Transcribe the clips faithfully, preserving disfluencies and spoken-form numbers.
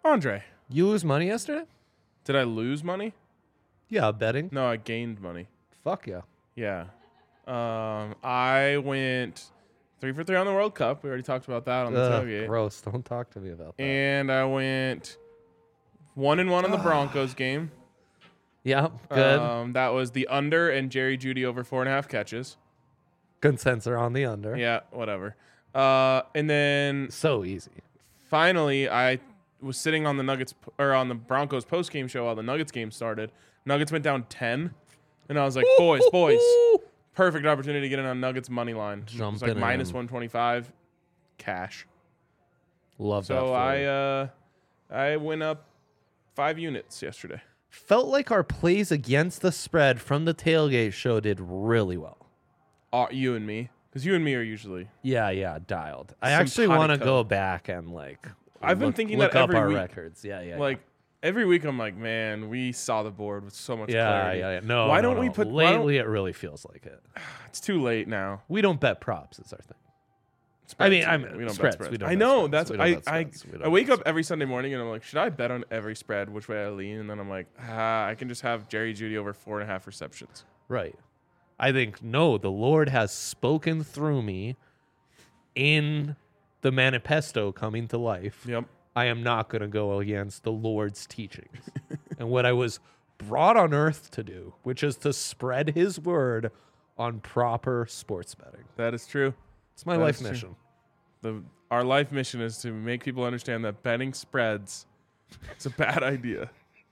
Andre, You lose money yesterday? did I lose money? Yeah, betting. No, I gained money. Fuck yeah. Yeah. Um, I went three for three on the World Cup. We already talked about that on the Ugh, tailgate. gross. Don't talk to me about that. And I went one and one on the Broncos game. Yeah, good. Um, that was the under and Jerry Jeudy over four and a half catches. Consensus on the under. Yeah, whatever. Uh, and then So easy. finally, I was sitting on the Nuggets or on the Broncos post game show while the Nuggets game started. Nuggets went down ten, and I was like, "Boys, boys, perfect opportunity to get in on Nuggets money line." It was Jumping like minus in. one twenty five, cash. Love that. So for I you. uh, I went up five units yesterday. Felt like our plays against the spread from the tailgate show did really well. Uh, you and me, because you and me are usually. Yeah, yeah, dialed. I actually want to Simpatico. go back and like. I've been look- thinking look that up every our week. records. Yeah, yeah. Like every week, I'm like, man, we saw the board with so much yeah, clarity. yeah, yeah. No, Why no, don't we no. put? why don't- Lately, it really feels like it. it's too late now. We don't bet props. Is our thing. Spreads. I mean, I'm we don't spreads. bet spreads. We don't I bet know spreads. that's We don't I bet I, spreads. We don't I wake bet up every Sunday morning and I'm like, should I bet on every spread? Which way I lean? And then I'm like, ah, I can just have Jerry Jeudy over four and a half receptions. Right. I think, no, the Lord has spoken through me in the manifesto coming to life. Yep. I am not going to go against the Lord's teachings and what I was brought on earth to do, which is to spread his word on proper sports betting. That is true. It's my That life is true. mission. The our life mission is to make people understand that betting spreads is a bad idea.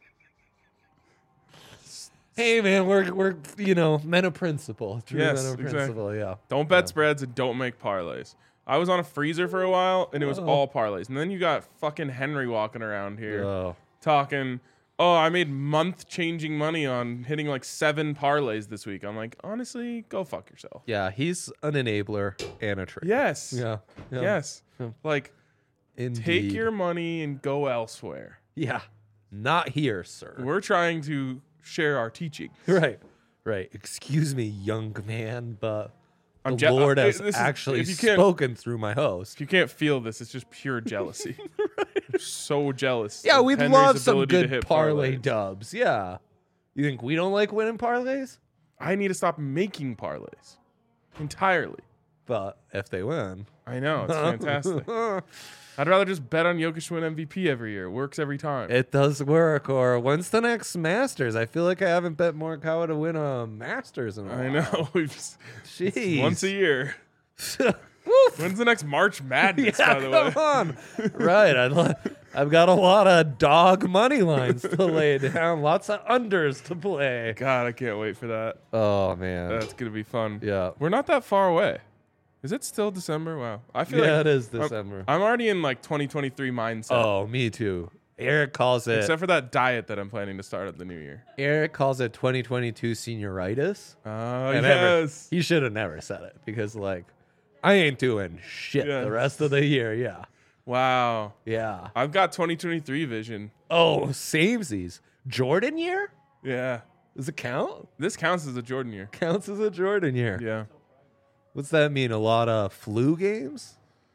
Hey, man, we're, we're you know, men of principle. True Yes, men of exactly. principle, yeah. Don't bet Yeah. spreads and don't make parlays. I was on a freezer for a while and it was Oh. all parlays. And then you got fucking Henry walking around here Oh. talking, oh, I made month changing money on hitting like seven parlays this week. I'm like, honestly, go fuck yourself. Yeah, he's an enabler and a traitor. Yes. Yeah. yeah. Yes. Yeah. Like, Indeed. take your money and go elsewhere. Yeah. Not here, sir. We're trying to share our teaching. Right. Right. Excuse me, young man, but I'm the je- Lord uh, has this is- actually if you can't- spoken through my host. If you can't feel this, it's just pure jealousy. I'm so jealous. Yeah, of we'd Henry's love some ability to good hit parlay parlays. dubs. Yeah. You think we don't like winning parlays? I need to stop making parlays entirely. But if they win. I know, it's fantastic. I'd rather just bet on Jokic to win M V P every year. It works every time. It does work. Or when's the next Masters? I feel like I haven't bet Morikawa to win a Masters in a while. I know. We've just, Jeez. once a year. Woof. When's the next March Madness, Yeah, by the way? come on. Right. I'd li- I've got a lot of dog money lines to lay down, lots of unders to play. God, I can't wait for that. Oh, man. That's going to be fun. yeah. We're not that far away. Is it still December? Wow. I feel Yeah, like it is I'm- December. I'm already in like twenty twenty-three mindset. Oh, me too. Eric calls it. Except for that diet that I'm planning to start at the new year. Eric calls it twenty twenty-two senioritis. Oh, And ever- yes. He should have never said it because, like, I ain't doing shit Yeah. the rest of the year. Yeah. Wow. Yeah. I've got twenty twenty-three vision. Oh, samesies. Jordan year? Yeah. Does it count? This counts as a Jordan year. Counts as a Jordan year. Yeah. What's that mean? A lot of flu games?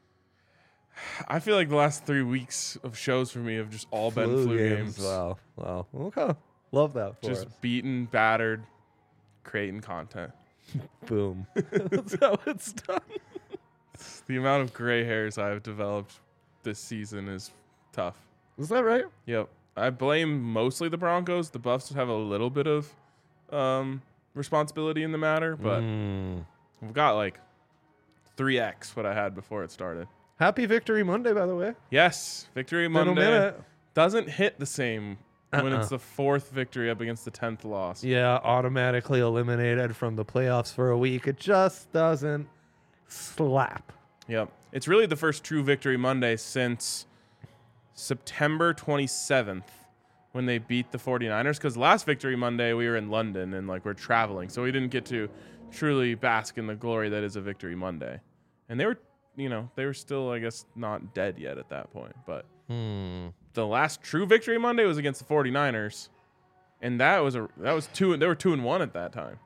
I feel like the last three weeks of shows for me have just all been flu games. Wow. Wow. Okay. Love that for Just us. beaten, battered, creating content. Boom. That's how it's done. The amount of gray hairs I've developed this season is tough. Is that right? Yep. I blame mostly the Broncos. The Buffs have a little bit of um, responsibility in the matter, but Mm. we've got like three X what I had before it started. Happy Victory Monday, by the way. Yes, Victory Been a Monday minute. doesn't hit the same when Uh-uh. it's the fourth victory up against the tenth loss. Yeah, automatically eliminated from the playoffs for a week. It just doesn't slap. Yep. It's really the first true Victory Monday since September twenty-seventh when they beat the 49ers, because last Victory Monday we were in London and like we're traveling, so we didn't get to truly bask in the glory that is a Victory Monday. And they were, you know, they were still, I guess, not dead yet at that point. But Hmm. the last true Victory Monday was against the 49ers, and that was a that was two. They were two and one at that time.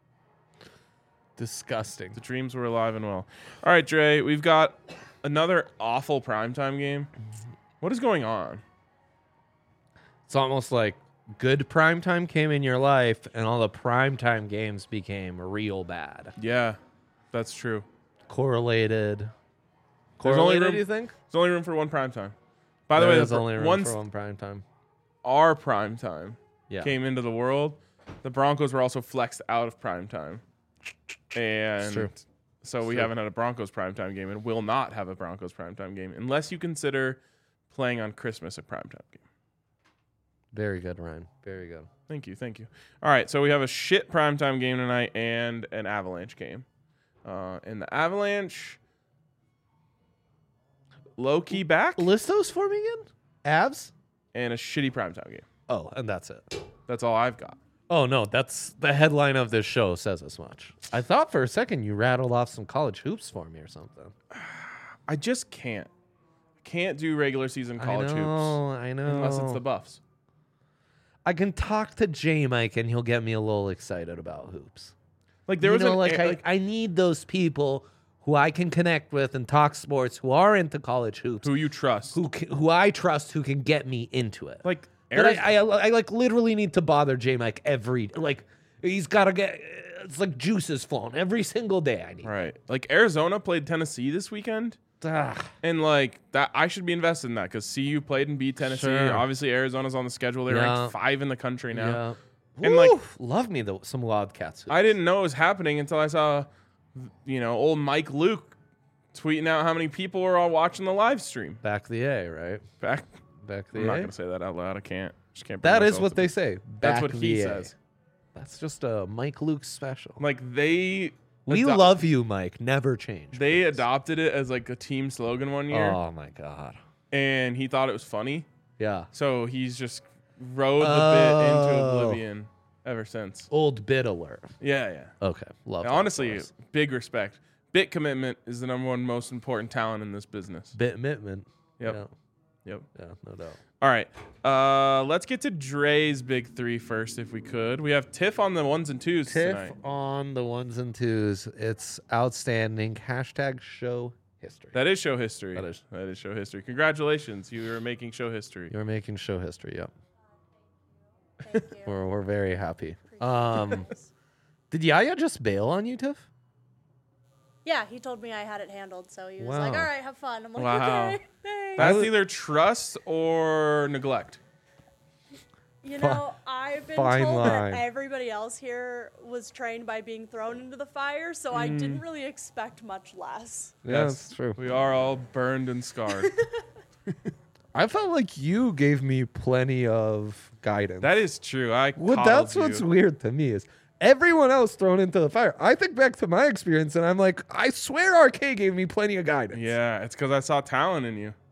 Disgusting. The dreams were alive and well. All right, Dre, we've got another awful primetime game. What is going on? It's almost like good primetime came in your life, and all the primetime games became real bad. Yeah, that's true. Correlated. There's Correlated, only room, you think? There's only room for one prime time. By the way, there's the, only room once for one primetime. our prime time Yeah. came into the world, the Broncos were also flexed out of prime time. And true. so It's we true. haven't had a Broncos primetime game and will not have a Broncos primetime game unless you consider playing on Christmas a primetime game. Very good, Ryan. Very good. Thank you, thank you. All right, so we have a shit primetime game tonight and an Avalanche game. Uh, and the Avalanche, low-key back, List those for me again. Avs? and a shitty primetime game. Oh, and that's it. That's all I've got. Oh, no, that's the headline of this show says as much. I thought for a second you rattled off some college hoops for me or something. I just can't. I can't do regular season college I know, hoops I know. unless it's the Buffs. I can talk to J Mike and he'll get me a little excited about hoops. Like there you was know, an, like, a- I, like I need those people who I can connect with and talk sports who are into college hoops, who you trust. who ca- who I trust, who can get me into it. Like But Ariz- I, I, I like literally need to bother J Mike every like he's got to get it's like juices flowing every single day. I need. right. Like Arizona played Tennessee this weekend. Ugh. And like that, I should be invested in that because C U played and beat Tennessee. Sure. Obviously, Arizona's on the schedule. They're Yeah. ranked five in the country now. Yeah. And, like- Woof. love me the, some Wildcats. I didn't know it was happening until I saw, you know, old Mike Luke tweeting out how many people were all watching the live stream. Back the A, right? Back, Back the I'm not A. gonna say that out loud. I can't. Just can't. bring That is myself what to- they say. That's Back what he the A. says. That's just a Mike Luke special. Like they, We ado- love you, Mike. Never change. They please. adopted it as like a team slogan one year, Oh my god. and he thought it was funny. Yeah. So he's just rode the bit into Oh. oblivion ever since. Old bit alert. Yeah, yeah. Okay. Love. And that honestly, for us. big respect. Bit commitment is the number one most important talent in this business. Bit Mittman. Yep. Yeah. Yep. Yeah. No doubt. All right. Uh, let's get to Dre's big three first, if we could. We have Tiff on the ones and twos Tiff tonight. on the ones and twos. It's outstanding. Hashtag show history. That is show history. That is. That is show history. Congratulations, you are making show history. You're making show history. Yep. Thank you. We're we're very happy. Appreciate Um, it. did Yaya just bail on you, Tiff? Yeah, he told me I had it handled, so he was like, Wow. "All right, have fun." I'm like, Wow. "Okay, thanks." That's was- either trust or neglect. You Fi- know, I've been fine told line. that everybody else here was trained by being thrown into the fire, so I didn't really expect much less. Yeah, Yes. that's true. We are all burned and scarred. I felt like you gave me plenty of guidance. That is true. I Well, coddled that's what's you. weird to me is everyone else thrown into the fire. I think back to my experience and I'm like, I swear R K gave me plenty of guidance. Yeah, it's because I saw talent in you.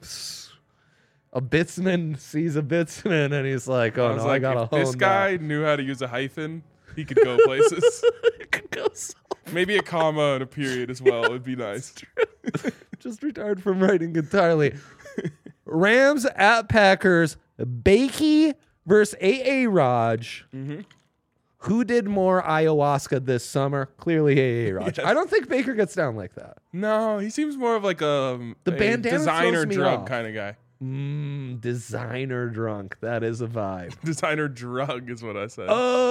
A bitsman sees a bitsman and he's like, oh I was no, like, I gotta if hone this guy knew how to use a hyphen, he could go places. that. Could go so- Maybe a comma and a period as well would be nice. Just retired from writing entirely. Rams at Packers. Bakey versus A A Raj. Mm-hmm. Who did more ayahuasca this summer? Clearly A A Raj. Yes. I don't think Baker gets down like that. No, he seems more of like a, The a bandana designer throws me drug off. kind of guy. Mmm, designer drunk. That is a vibe. Designer drug is what I said.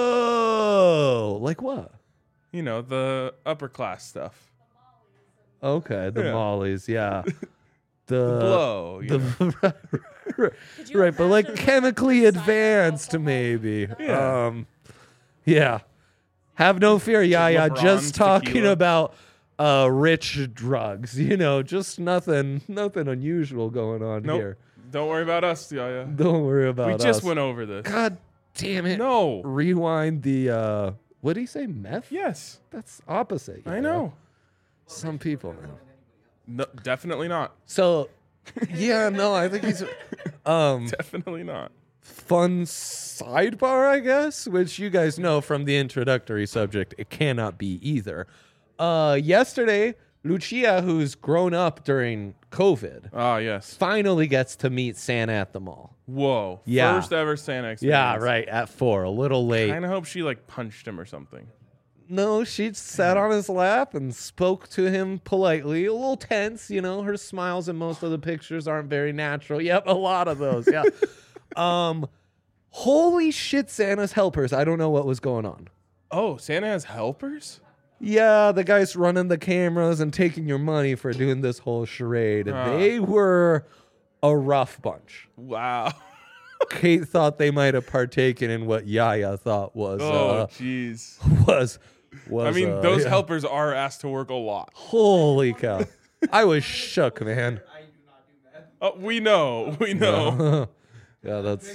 Oh, like what? You know, the upper class stuff. Okay, the Yeah. mollies, yeah. The, The blow. You know. the Could you right, but like imagine chemically designer advanced, alcohol? maybe. Yeah. Um, yeah. Have no fear, Yaya. LeBron's Just talking tequila. about uh, rich drugs. You know, just nothing, nothing unusual going on Nope. here. Don't worry about us, Yaya. Don't worry about We us. just went over this. God damn it! No. Rewind the. Uh, what did he say? Meth? Yes. That's opposite. I Yaya. know. Some people know. No, definitely not. So, yeah, no, I think he's um Definitely not. fun sidebar, I guess, which you guys know from the introductory subject, it cannot be either. Uh, yesterday, Lucia, who's grown up during COVID, Ah, yes. finally gets to meet Santa at the mall. Whoa. Yeah. First ever Santa experience. Yeah, right at four, a little late. Kind of hope she like punched him or something. No, she sat on his lap and spoke to him politely. A little tense, you know. Her smiles in most of the pictures aren't very natural. Yep, a lot of those. Yeah. um, Holy shit, Santa's helpers. I don't know what was going on. Oh, Santa has helpers? Yeah, the guys running the cameras and taking your money for doing this whole charade. Ah. They were a rough bunch. Wow. Kate thought they might have partaken in what Yaya thought was Oh, uh, jeez. was was. I mean, uh, those yeah. helpers are asked to work a lot. Holy cow! I was shook, man. Oh, we know. We know. Yeah, that's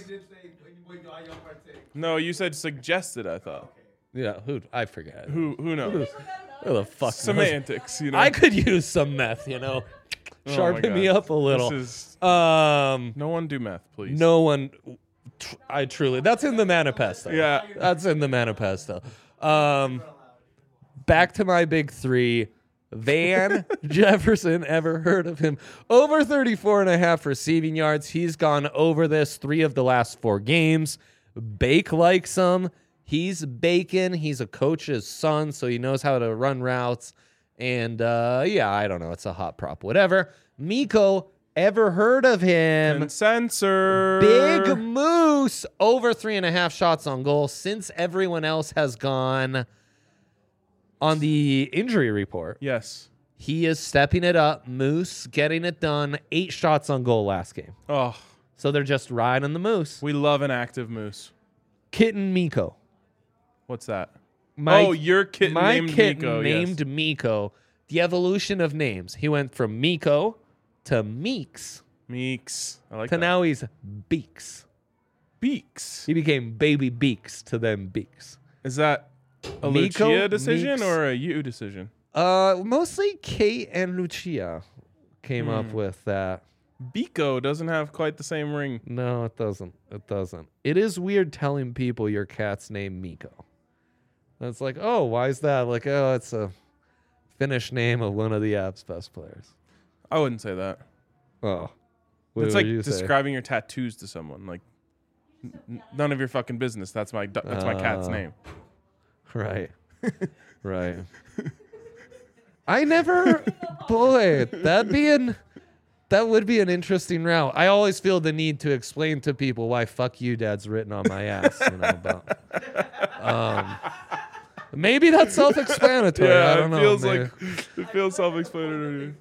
No, you said suggested, I thought. yeah. Who I forget. Who, Who who knows? who the fuck? knows? Semantics, you know. I could use some meth, you know. Oh my Sharpen me God. up a little. This is, Um, no one do meth, please. no one. tr- I truly. That's in the manifesto. Yeah. That's in the manifesto. Um, back to my big three. Van Jefferson, ever heard of him? Over thirty-four and a half receiving yards. He's gone over this three of the last four games. Bake likes him. He's bacon. He's a coach's son, so he knows how to run routes. And uh, yeah, I don't know. It's a hot prop, whatever. Miko, ever heard of him? And censor. Big Moose, over three and a half shots on goal since everyone else has gone on the injury report. Yes. He is stepping it up. Moose getting it done. Eight shots on goal last game. Oh, So they're just riding the Moose. we love an active moose. Kitten Miko. What's that? My, oh, your kitten my named kitten Miko. named yes. Miko. The evolution of names. He went from Miko to Meeks Meeks. I like to that. now he's Beaks. Beaks. He became Baby Beaks to then Beaks. Is that a Miko, Lucia decision Meeks. or a you decision? Uh, mostly Kate and Lucia came up Hmm. with that. Biko doesn't have quite the same ring. No, it doesn't. It doesn't. It is weird telling people your cat's name Miko. It's like, oh, why is that? Like, oh, it's a Finnish name of one of the app's best players. I wouldn't say that. Oh, what It's would like you say? describing your tattoos to someone. Like, n- none of your fucking business. That's my du- that's my cat's Uh, name. Right, right. I never, boy, that'd be an, that would be an interesting route. I always feel the need to explain to people why "fuck you, Dad's" written on my ass. You know, but, um, maybe that's self-explanatory. Yeah, I don't it know. feels maybe. like it feels self-explanatory.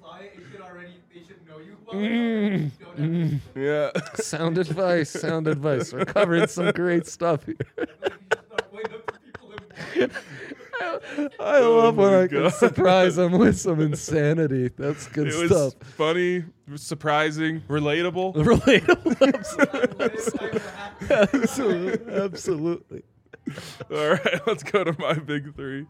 Mm, mm. Yeah. Sound advice, sound advice. We're covering some great stuff here. I love when my I can God. surprise them with some insanity. That's good It was stuff. funny, surprising, relatable. Relatable. Absolutely. Absolutely. All right, let's go to my big three.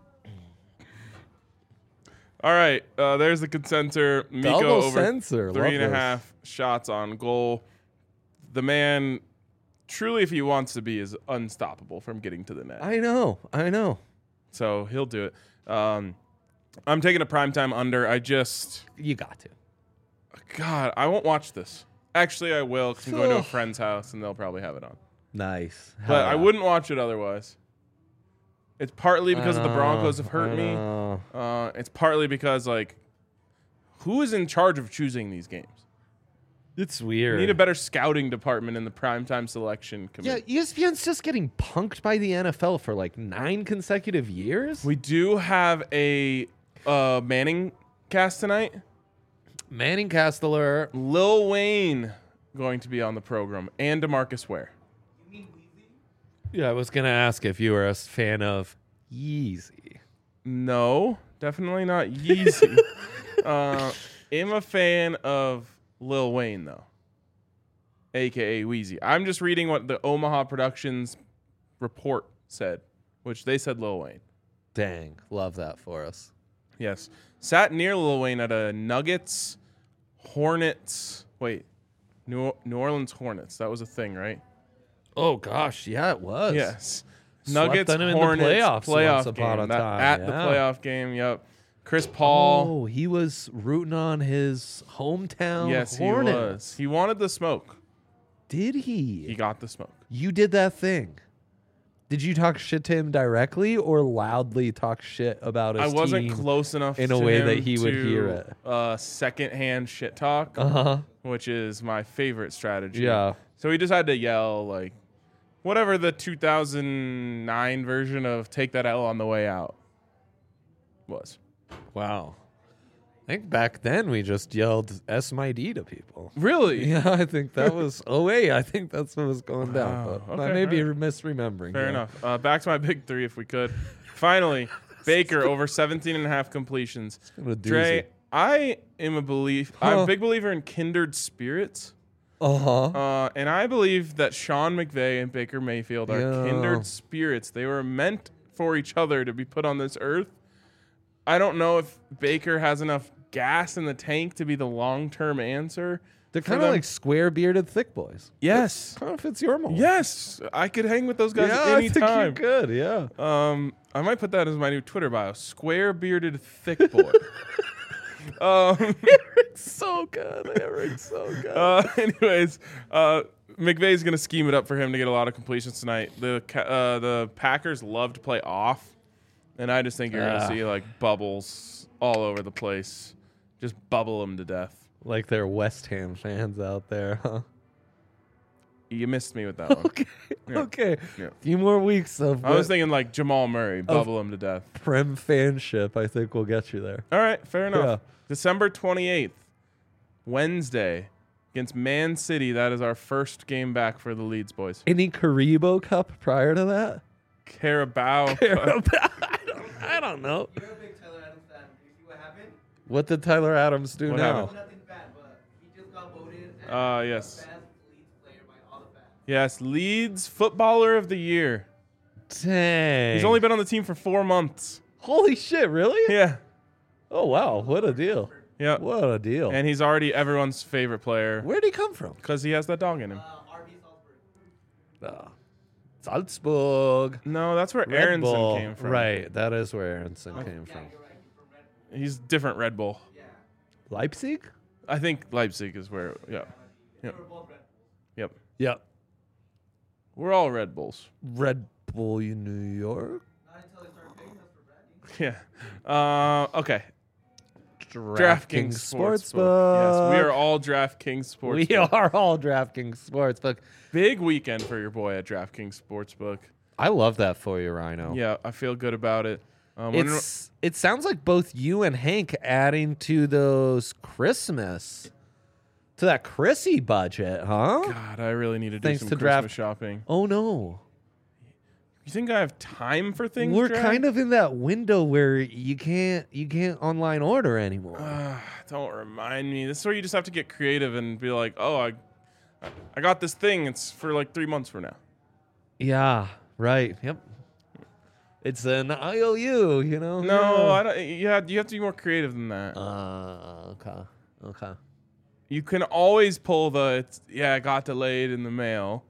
All right, uh, there's the consenter. Miko Double over censor. three Love and a this. half shots on goal. The man, truly, if he wants to be, is unstoppable from getting to the net. I know. I know. So he'll do it. Um, I'm taking a primetime under. I just, You got to. God, I won't watch this. Actually, I will because I'm going to a Ugh. friend's house and they'll probably have it on. Nice. But Hell I yeah. wouldn't watch it otherwise. It's partly because I of the know, Broncos have hurt I me. know. Uh, it's partly because, like, who is in charge of choosing these games? It's weird. We need a better scouting department in the primetime selection Yeah, committee. E S P N's just getting punked by the N F L for like nine consecutive years. We do have a uh, Manning cast tonight. Manning Casteller. Lil Wayne going to be on the program, and DeMarcus Ware. Yeah, I was gonna ask if you were a fan of Yeezy. No, definitely not Yeezy. uh, I'm a fan of Lil Wayne, though, a k a. Weezy. I'm just reading what the Omaha Productions report said, which they said Lil Wayne. Dang, love that for us. Yes. Sat near Lil Wayne at a Nuggets, Hornets. Wait, New, New Orleans Hornets. That was a thing, right? Oh gosh, yeah, it was. Yes. Swept Nuggets, them in the Hornets, playoffs playoff once upon game. a That- time, at the yeah. playoff game, yep. Chris Paul. Oh, he was rooting on his hometown yes, Hornets. he was. He wanted the smoke. Did he? He got the smoke. You did that thing. Did you talk shit to him directly or loudly talk shit about his I wasn't team? close enough in a to way him that he would to, hear it. Uh, secondhand shit talk, Uh-huh. which is my favorite strategy. Yeah. So he just had to yell like, whatever the two thousand nine version of Take That L on the Way Out was. Wow. I think back then we just yelled S M I D to people. Really? Yeah, I think that was oh wait, I think that's what was going down. Wow. But I Okay, may be alright. misremembering. Fair yeah. enough. Uh, back to my big three, if we could. Finally, Baker over seventeen and a half completions. What a doozy. Dre, I am a belief. I'm Huh. a big believer in kindred spirits. Uh-huh. Uh, and I believe that Sean McVay and Baker Mayfield are Yeah. kindred spirits. They were meant for each other to be put on this earth. I don't know if Baker has enough gas in the tank to be the long-term answer. They're for kind of them. like square-bearded thick boys. Yes. Kind of fits your mold. Yes. I could hang with those guys yeah, I think you anytime. could, yeah. Um, I might put that as my new Twitter bio. Square-bearded thick boy. um, Eric's so good. Eric's so good. Uh, anyways, uh, McVay's gonna scheme it up for him to get a lot of completions tonight. The Ca- uh, the Packers love to play off, and I just think you're Ah. gonna see like bubbles all over the place, just bubble them to death. Like they're West Ham fans out there, huh? You missed me with that one. Okay. Yeah. Okay. Yeah. Few more weeks of I was the thinking like Jamal Murray, bubble him to death. Prem fanship. I think will get you there. All right, fair enough. Yeah. December twenty-eighth, Wednesday, against Man City. That is our first game back for the Leeds boys. Any Karibo Cup prior to that? Carabao. I don't, I don't know. You're a big Tyler Adams fan. You see what happened? What did Tyler Adams do What now? happened? Nothing bad, but he just got voted as Uh, yes. the best Leeds player by all the fans. Yes, Leeds Footballer of the Year. Dang. He's only been on the team for four months. Holy shit, really? Yeah. Oh, wow. What a deal. Yeah. What a deal. And he's already everyone's favorite player Where'd he come from? because he has that dog in him. Uh, R B Salzburg. Oh. Salzburg. No, that's where Red Aronson Bull. came from. Right. That is where Aronson came Yeah, from. you're right. He's from Red. He's different Red Bull. Yeah. Leipzig? I think Leipzig is where, yeah. They Yep. were both Red. Yep. Yep. We're all Red Bulls. Red Bull in New York? Not until they started paying us for branding. Yeah. Uh, okay. DraftKings Sportsbook. Sportsbook. Yes, we are all DraftKings Sportsbook. We are all DraftKings Sportsbook. Big weekend for your boy at DraftKings Sportsbook. I love that for you, Rhino. Yeah, I feel good about it. Um, wonder- It's it sounds like both you and Hank adding to those Christmas to that Chrissy budget, huh? God, I really need to do Thanks some to Christmas draft- shopping. Oh no. You think I have time for things? We're Draft? kind of in that window where you can't you can't online order anymore. Uh, don't remind me. This is where you just have to get creative and be like, oh, I, I got this thing. It's for like three months from now. Yeah, right. Yep. It's an I O U, you know. No, yeah. I don't. Yeah, you have to be more creative than that. Uh, okay. Okay. You can always pull the, it's, yeah, it got delayed in the mail,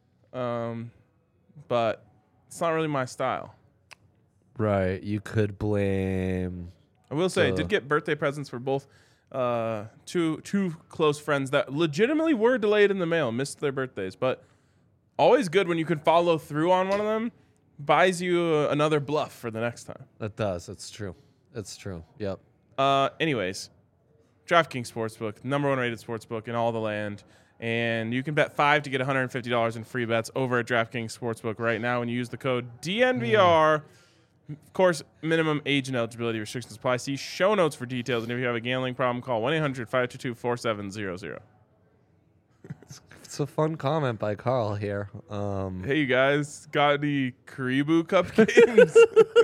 um, but it's not really my style. Right. You could blame. I will say, I Uh. did get birthday presents for both uh, two two close friends that legitimately were delayed in the mail, missed their birthdays. But always good when you can follow through on one of them. Buys you uh, another bluff for the next time. That does. It's true. It's true. Yep. Uh, anyways, DraftKings Sportsbook, number one rated sportsbook in all the land. And you can bet five to get one hundred fifty dollars in free bets over at DraftKings Sportsbook right now when you use the code D N V R. Of course, minimum age and eligibility restrictions apply. See show notes for details. And if you have a gambling problem, call one eight hundred five two two four seven zero zero. It's a fun comment by Carl here. Um, Hey, you guys, got any Karibu Cup games?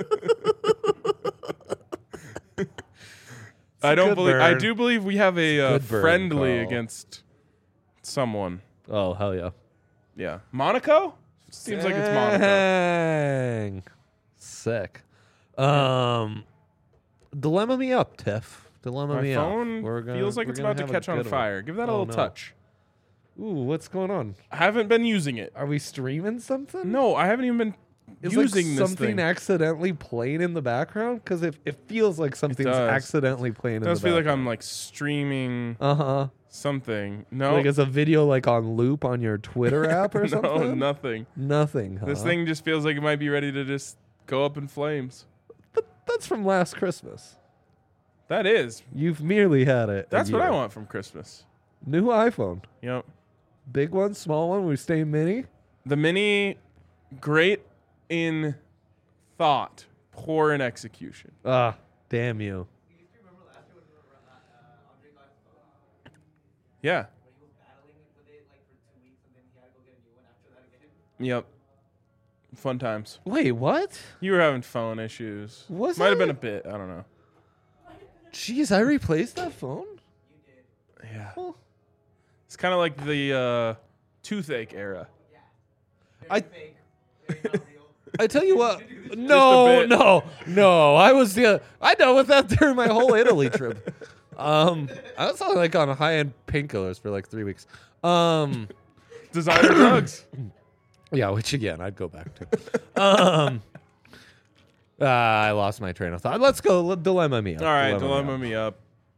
I don't good believe. I burn. do believe we have a uh, good burn, friendly Carl. against someone. oh hell yeah! Yeah, Monaco. Seems like it's Monaco. Dang. Sick. Um, dilemma me up, Tiff. Dilemma My me phone up. We're gonna- feels like we're it's gonna about to have a catch on good one. fire. Give that a Oh, little no. touch. Ooh, what's going on? I haven't been using it. Are we streaming something? No, I haven't even been Is using like this something thing. accidentally playing in the background? Because it, it feels like something's does. accidentally playing It in does the feel like background. I'm like streaming Uh huh. something. No, Like it's a video like on loop on your Twitter app or no, something? nothing. Nothing. Huh? This thing just feels like it might be ready to just go up in flames. But that's from last Christmas. That is. You've merely had it. a That's what I year. want from Christmas. New iPhone. Yep. Big one, small one. We stay mini. The mini, great in thought, poor in execution. Ah, damn you. You used to remember last year when uh, uh, Andre got his phone, Yeah. when he was battling with it like for two weeks and then he had to go get a new one after that again. Yep. Fun times. Wait, what? You were having phone issues. Was Might have I? been a bit. I don't know. Jeez, I replaced that phone? Yeah. Well, It's kind of like the uh, toothache era. I Fake. Very not real. I tell you what. No, bit. no, no. I was the I dealt with that during my whole Italy trip. Um, I was only like on high end painkillers for like three weeks. Um, Designer drugs. yeah, which again I'd go back to. Um, uh, I lost my train of thought. Let's go. Let, dilemma me up. All right, Dilemma dilemma me me up.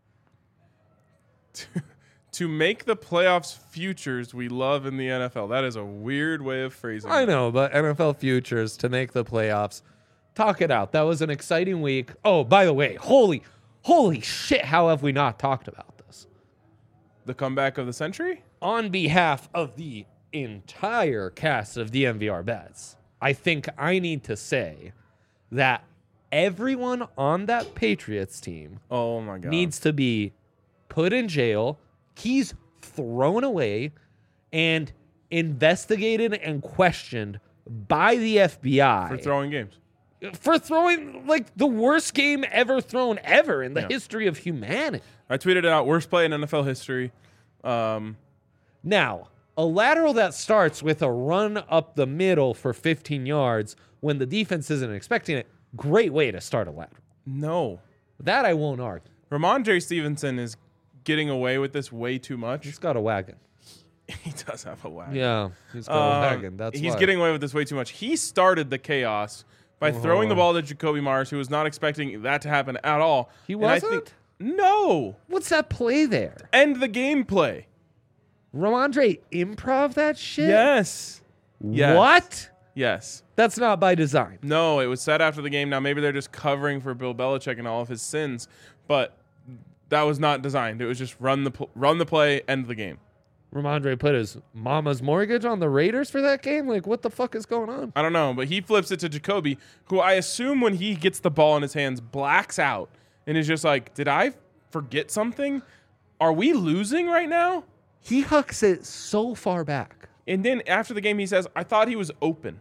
To make the playoffs futures we love in the N F L. That is a weird way of phrasing I it. know, but N F L futures to make the playoffs. Talk it out. That was an exciting week. Oh, by the way, holy, holy shit! How have we not talked about this? The comeback of the century? On behalf of the entire cast of D M V R Bets, I think I need to say that everyone on that Patriots team Oh my god. needs to be put in jail, keys thrown away, and investigated and questioned by the F B I for throwing games. for throwing like the worst game ever thrown ever in the Yeah. history of humanity. I tweeted it out. Worst play in N F L history. Um, Now, a lateral that starts with a run up the middle for fifteen yards when the defense isn't expecting it, great way to start a lateral. no. That I won't argue. Ramondre Stevenson is getting away with this way too much. He's got a wagon. He does have a wagon. Yeah, he's got Um, a wagon. That's he's why. getting away with this way too much. He started the chaos by throwing the ball to Jacoby Myers, who was not expecting that to happen at all. He And I wasn't? think- no. What's that play there? End the gameplay. Ramondre improv that shit? Yes. Yes. What? Yes. That's not by design. No, it was said after the game. Now maybe they're just covering for Bill Belichick and all of his sins, but that was not designed. It was just run the pl- run the play, end the game. Ramondre put his mama's mortgage on the Raiders for that game? Like, what the fuck is going on? I don't know, but he flips it to Jacoby, who I assume when he gets the ball in his hands blacks out and is just like, "Did I forget something? Are we losing right now?" He hucks it so far back. And then after the game, he says, "I thought he was open."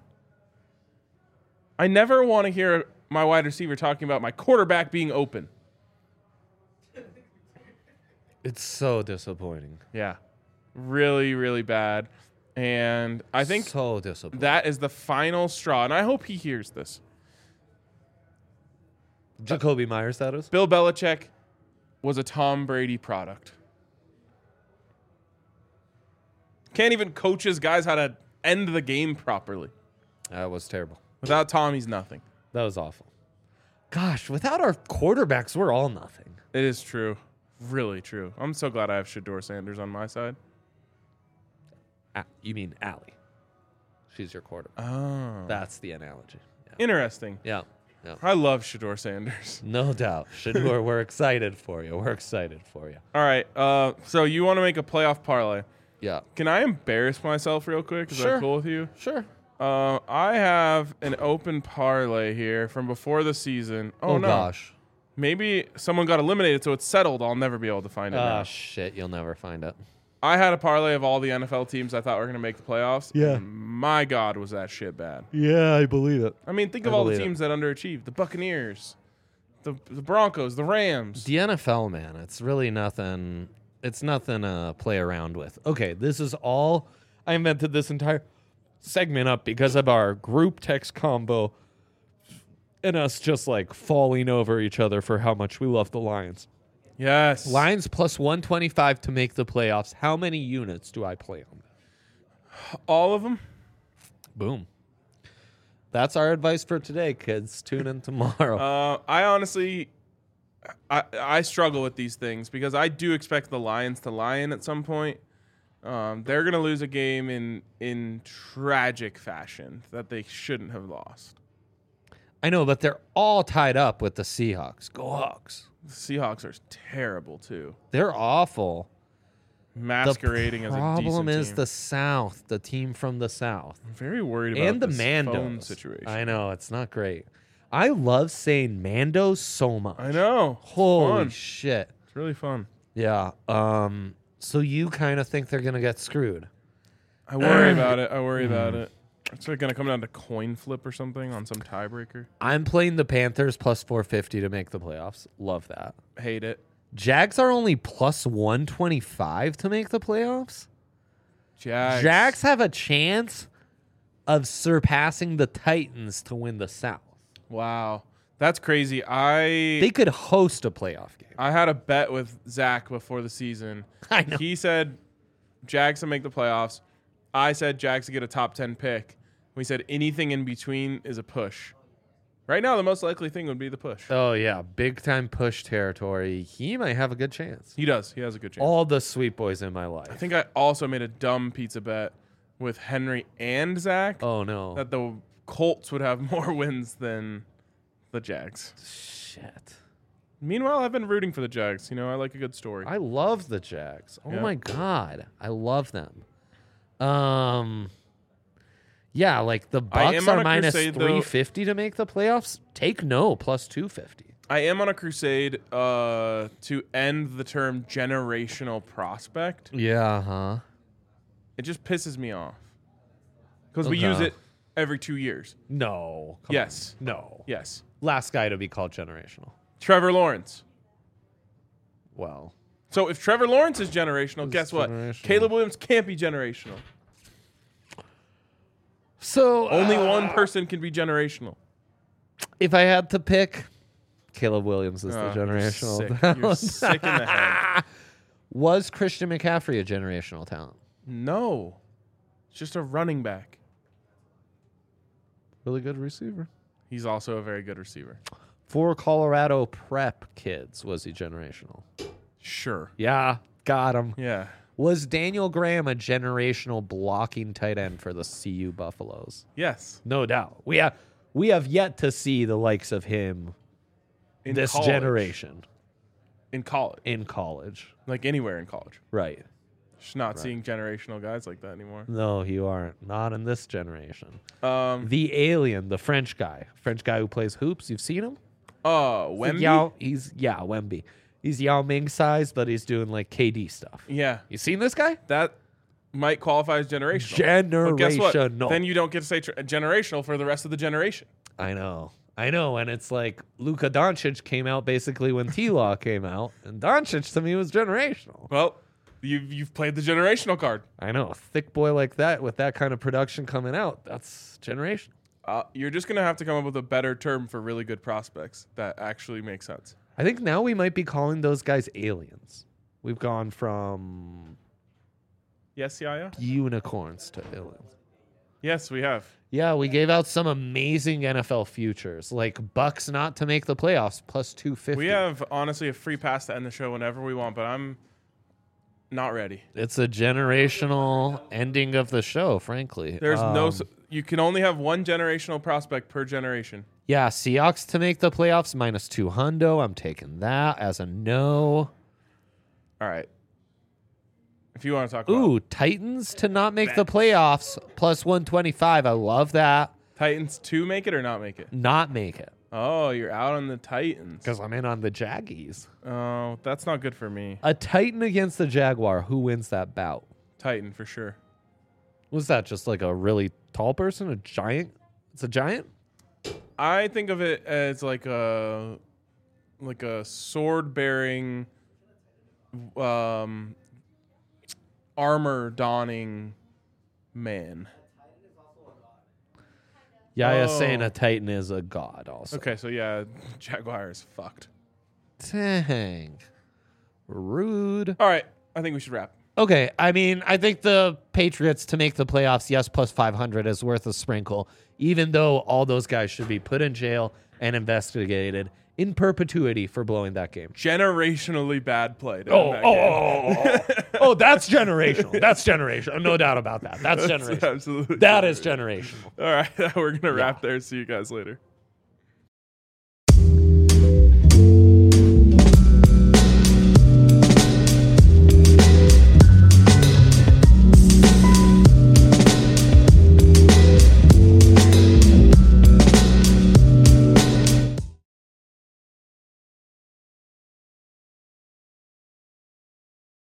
I never want to hear my wide receiver talking about my quarterback being open. It's so disappointing. Yeah. Really, really bad. And I think so disappointing. that is the final straw. And I hope he hears this. Jacoby Myers, that is. Bill Belichick was a Tom Brady product. Can't even coach his guys how to end the game properly. That was terrible. Without Tom, he's nothing. That was awful. Gosh, without our quarterbacks, we're all nothing. It is true. Really true. I'm so glad I have Shador Sanders on my side. Ah, you mean Allie? She's your quarterback. Oh. That's the analogy. Yeah. Interesting. Yeah. Yeah. I love Shador Sanders. No doubt. Shador, we're excited for you. We're excited for you. All right. Uh, so you want to make a playoff parlay. Yeah. Can I embarrass myself real quick? Is Sure. that cool with you? Sure. Uh, I have an open parlay here from before the season. Oh, Oh, no. gosh. Maybe someone got eliminated, so it's settled. I'll never be able to find it Ah, now. shit. You'll never find it. I had a parlay of all the N F L teams I thought were going to make the playoffs. Yeah. and my God, was that shit bad. Yeah, I believe it. I mean, think I of all the believe it. teams that underachieved. The Buccaneers, the, the Broncos, the Rams. The N F L, man, it's really nothing. It's nothing to play around with. Okay, this is all. I invented this entire segment up because of our group text combo and us just like falling over each other for how much we love the Lions. Yes. Lions plus one twenty-five to make the playoffs. How many units do I play on that? All of them? Boom. That's our advice for today, kids. Tune in tomorrow. Uh, I honestly, I I struggle with these things because I do expect the Lions to lion at some point. Um, they're gonna lose a game in in tragic fashion that they shouldn't have lost. I know, but they're all tied up with the Seahawks. Go Hawks. The Seahawks are terrible too. They're awful. masquerading the as a problem decent is team. the South, the team from the South. I'm very worried about And the this Mandos. phone situation. I know, it's not great. I love saying Mando so much. I know. It's Holy fun. shit. It's really fun. Yeah. Um. So you kind of think they're gonna get screwed? I worry about it. I worry about it. It's like gonna come down to coin flip or something on some tiebreaker. I'm playing the Panthers plus four fifty to make the playoffs. Love that. Hate it. Jags are only plus one twenty-five to make the playoffs. Jags. Jags have a chance of surpassing the Titans to win the South. Wow, that's crazy. I They could host a playoff game. I had a bet with Zach before the season. I know. He said Jags to make the playoffs. I said Jags to get a top ten pick. We said anything in between is a push. Right now, the most likely thing would be the push. Oh yeah, big time push territory. He might have a good chance. He does. He has a good chance. All the sweet boys in my I life. think I also made a dumb pizza bet with Henry and Zach Oh no. that the Colts would have more wins than the Jags. Shit. Meanwhile, I've been rooting for the Jags. You know, I like a good story. I love the Jags. Oh Yeah. my god, I love them. Um, yeah, like the I Bucks am on are a minus crusade, though. three fifty to make the playoffs. Take no plus two fifty. I am on a crusade uh, to end the term generational prospect. Yeah, huh? It just pisses me off because we use Okay. it every two years. No. come Yes. on. No. Yes. Last guy to be called generational. Trevor Lawrence. Well, So if Trevor Lawrence is generational, Who's guess what? generational? Caleb Williams can't be generational. so Only uh, one person can be generational. if I had to pick, Caleb Williams is Oh, the you're generational sick. talent. You're sick in the head. Was Christian McCaffrey a generational talent? No. It's just a running back. Really good receiver. He's also a very good receiver. For Colorado prep kids, was he generational? Sure. Yeah, got him. Yeah. Was Daniel Graham a generational blocking tight end for the C U Buffaloes? Yes. No doubt. We have we have yet to see the likes of him In this college. generation In college. in college. Like anywhere in college. Right. Just not seeing generational guys like that anymore. No, you aren't. Not in this generation. Um. The alien, the French guy. French guy who plays hoops. You've seen him? Oh, He's like Wemby. Yao, he's yeah, Wemby. He's Yao Ming size, but he's doing like K D stuff. Yeah, You seen this guy? that might qualify as generational. But guess what? Generational. Then you don't get to say tr- generational for the rest of the generation. I know. I know. And it's like Luka Doncic came out basically when T Law came out. And Doncic to me was generational. Well, you've you've played the generational card. I know. A thick boy like that with that kind of production coming out, that's generational. Uh, you're just gonna have to come up with a better term for really good prospects that actually makes sense. I think now we might be calling those guys aliens. We've gone from Yes, Yaya. unicorns to aliens. Yes, we have. Yeah, we gave out some amazing N F L futures, like Bucks not to make the playoffs plus two fifty. We have honestly a free pass to end the show whenever we want, but I'm not ready. It's a generational ending of the show, frankly. There's no. Um, s- You can only have one generational prospect per generation. Yeah, Seahawks to make the playoffs minus two hundo. I'm taking that as a no. All right. If you want to talk about Ooh, Titans to not make the playoffs plus one twenty-five. I love that. Titans to make it or not make it. Not make it Oh, you're out on the Titans. because I'm in on the Jaggies. Oh, that's not good for me. A Titan against the Jaguar. Who wins that bout? Titan for sure. Was that just like a really tall person? A giant? It's a giant? I think of it as like a like a sword bearing um armor donning man. Yaya Oh. saying a Titan is a god also. Okay, so yeah, Jaguar is fucked. Dang. Rude. All right, I think we should wrap. Okay, I mean, I think the Patriots to make the playoffs, yes, plus five hundred is worth a sprinkle, even though all those guys should be put in jail and investigated in perpetuity for blowing that game. Generationally bad play. to Oh, end that oh, game. oh, oh, oh, oh, that's generational. That's generational. No doubt about that. That's That's generational. absolutely That is generational. All right, we're gonna wrap there. See you guys later.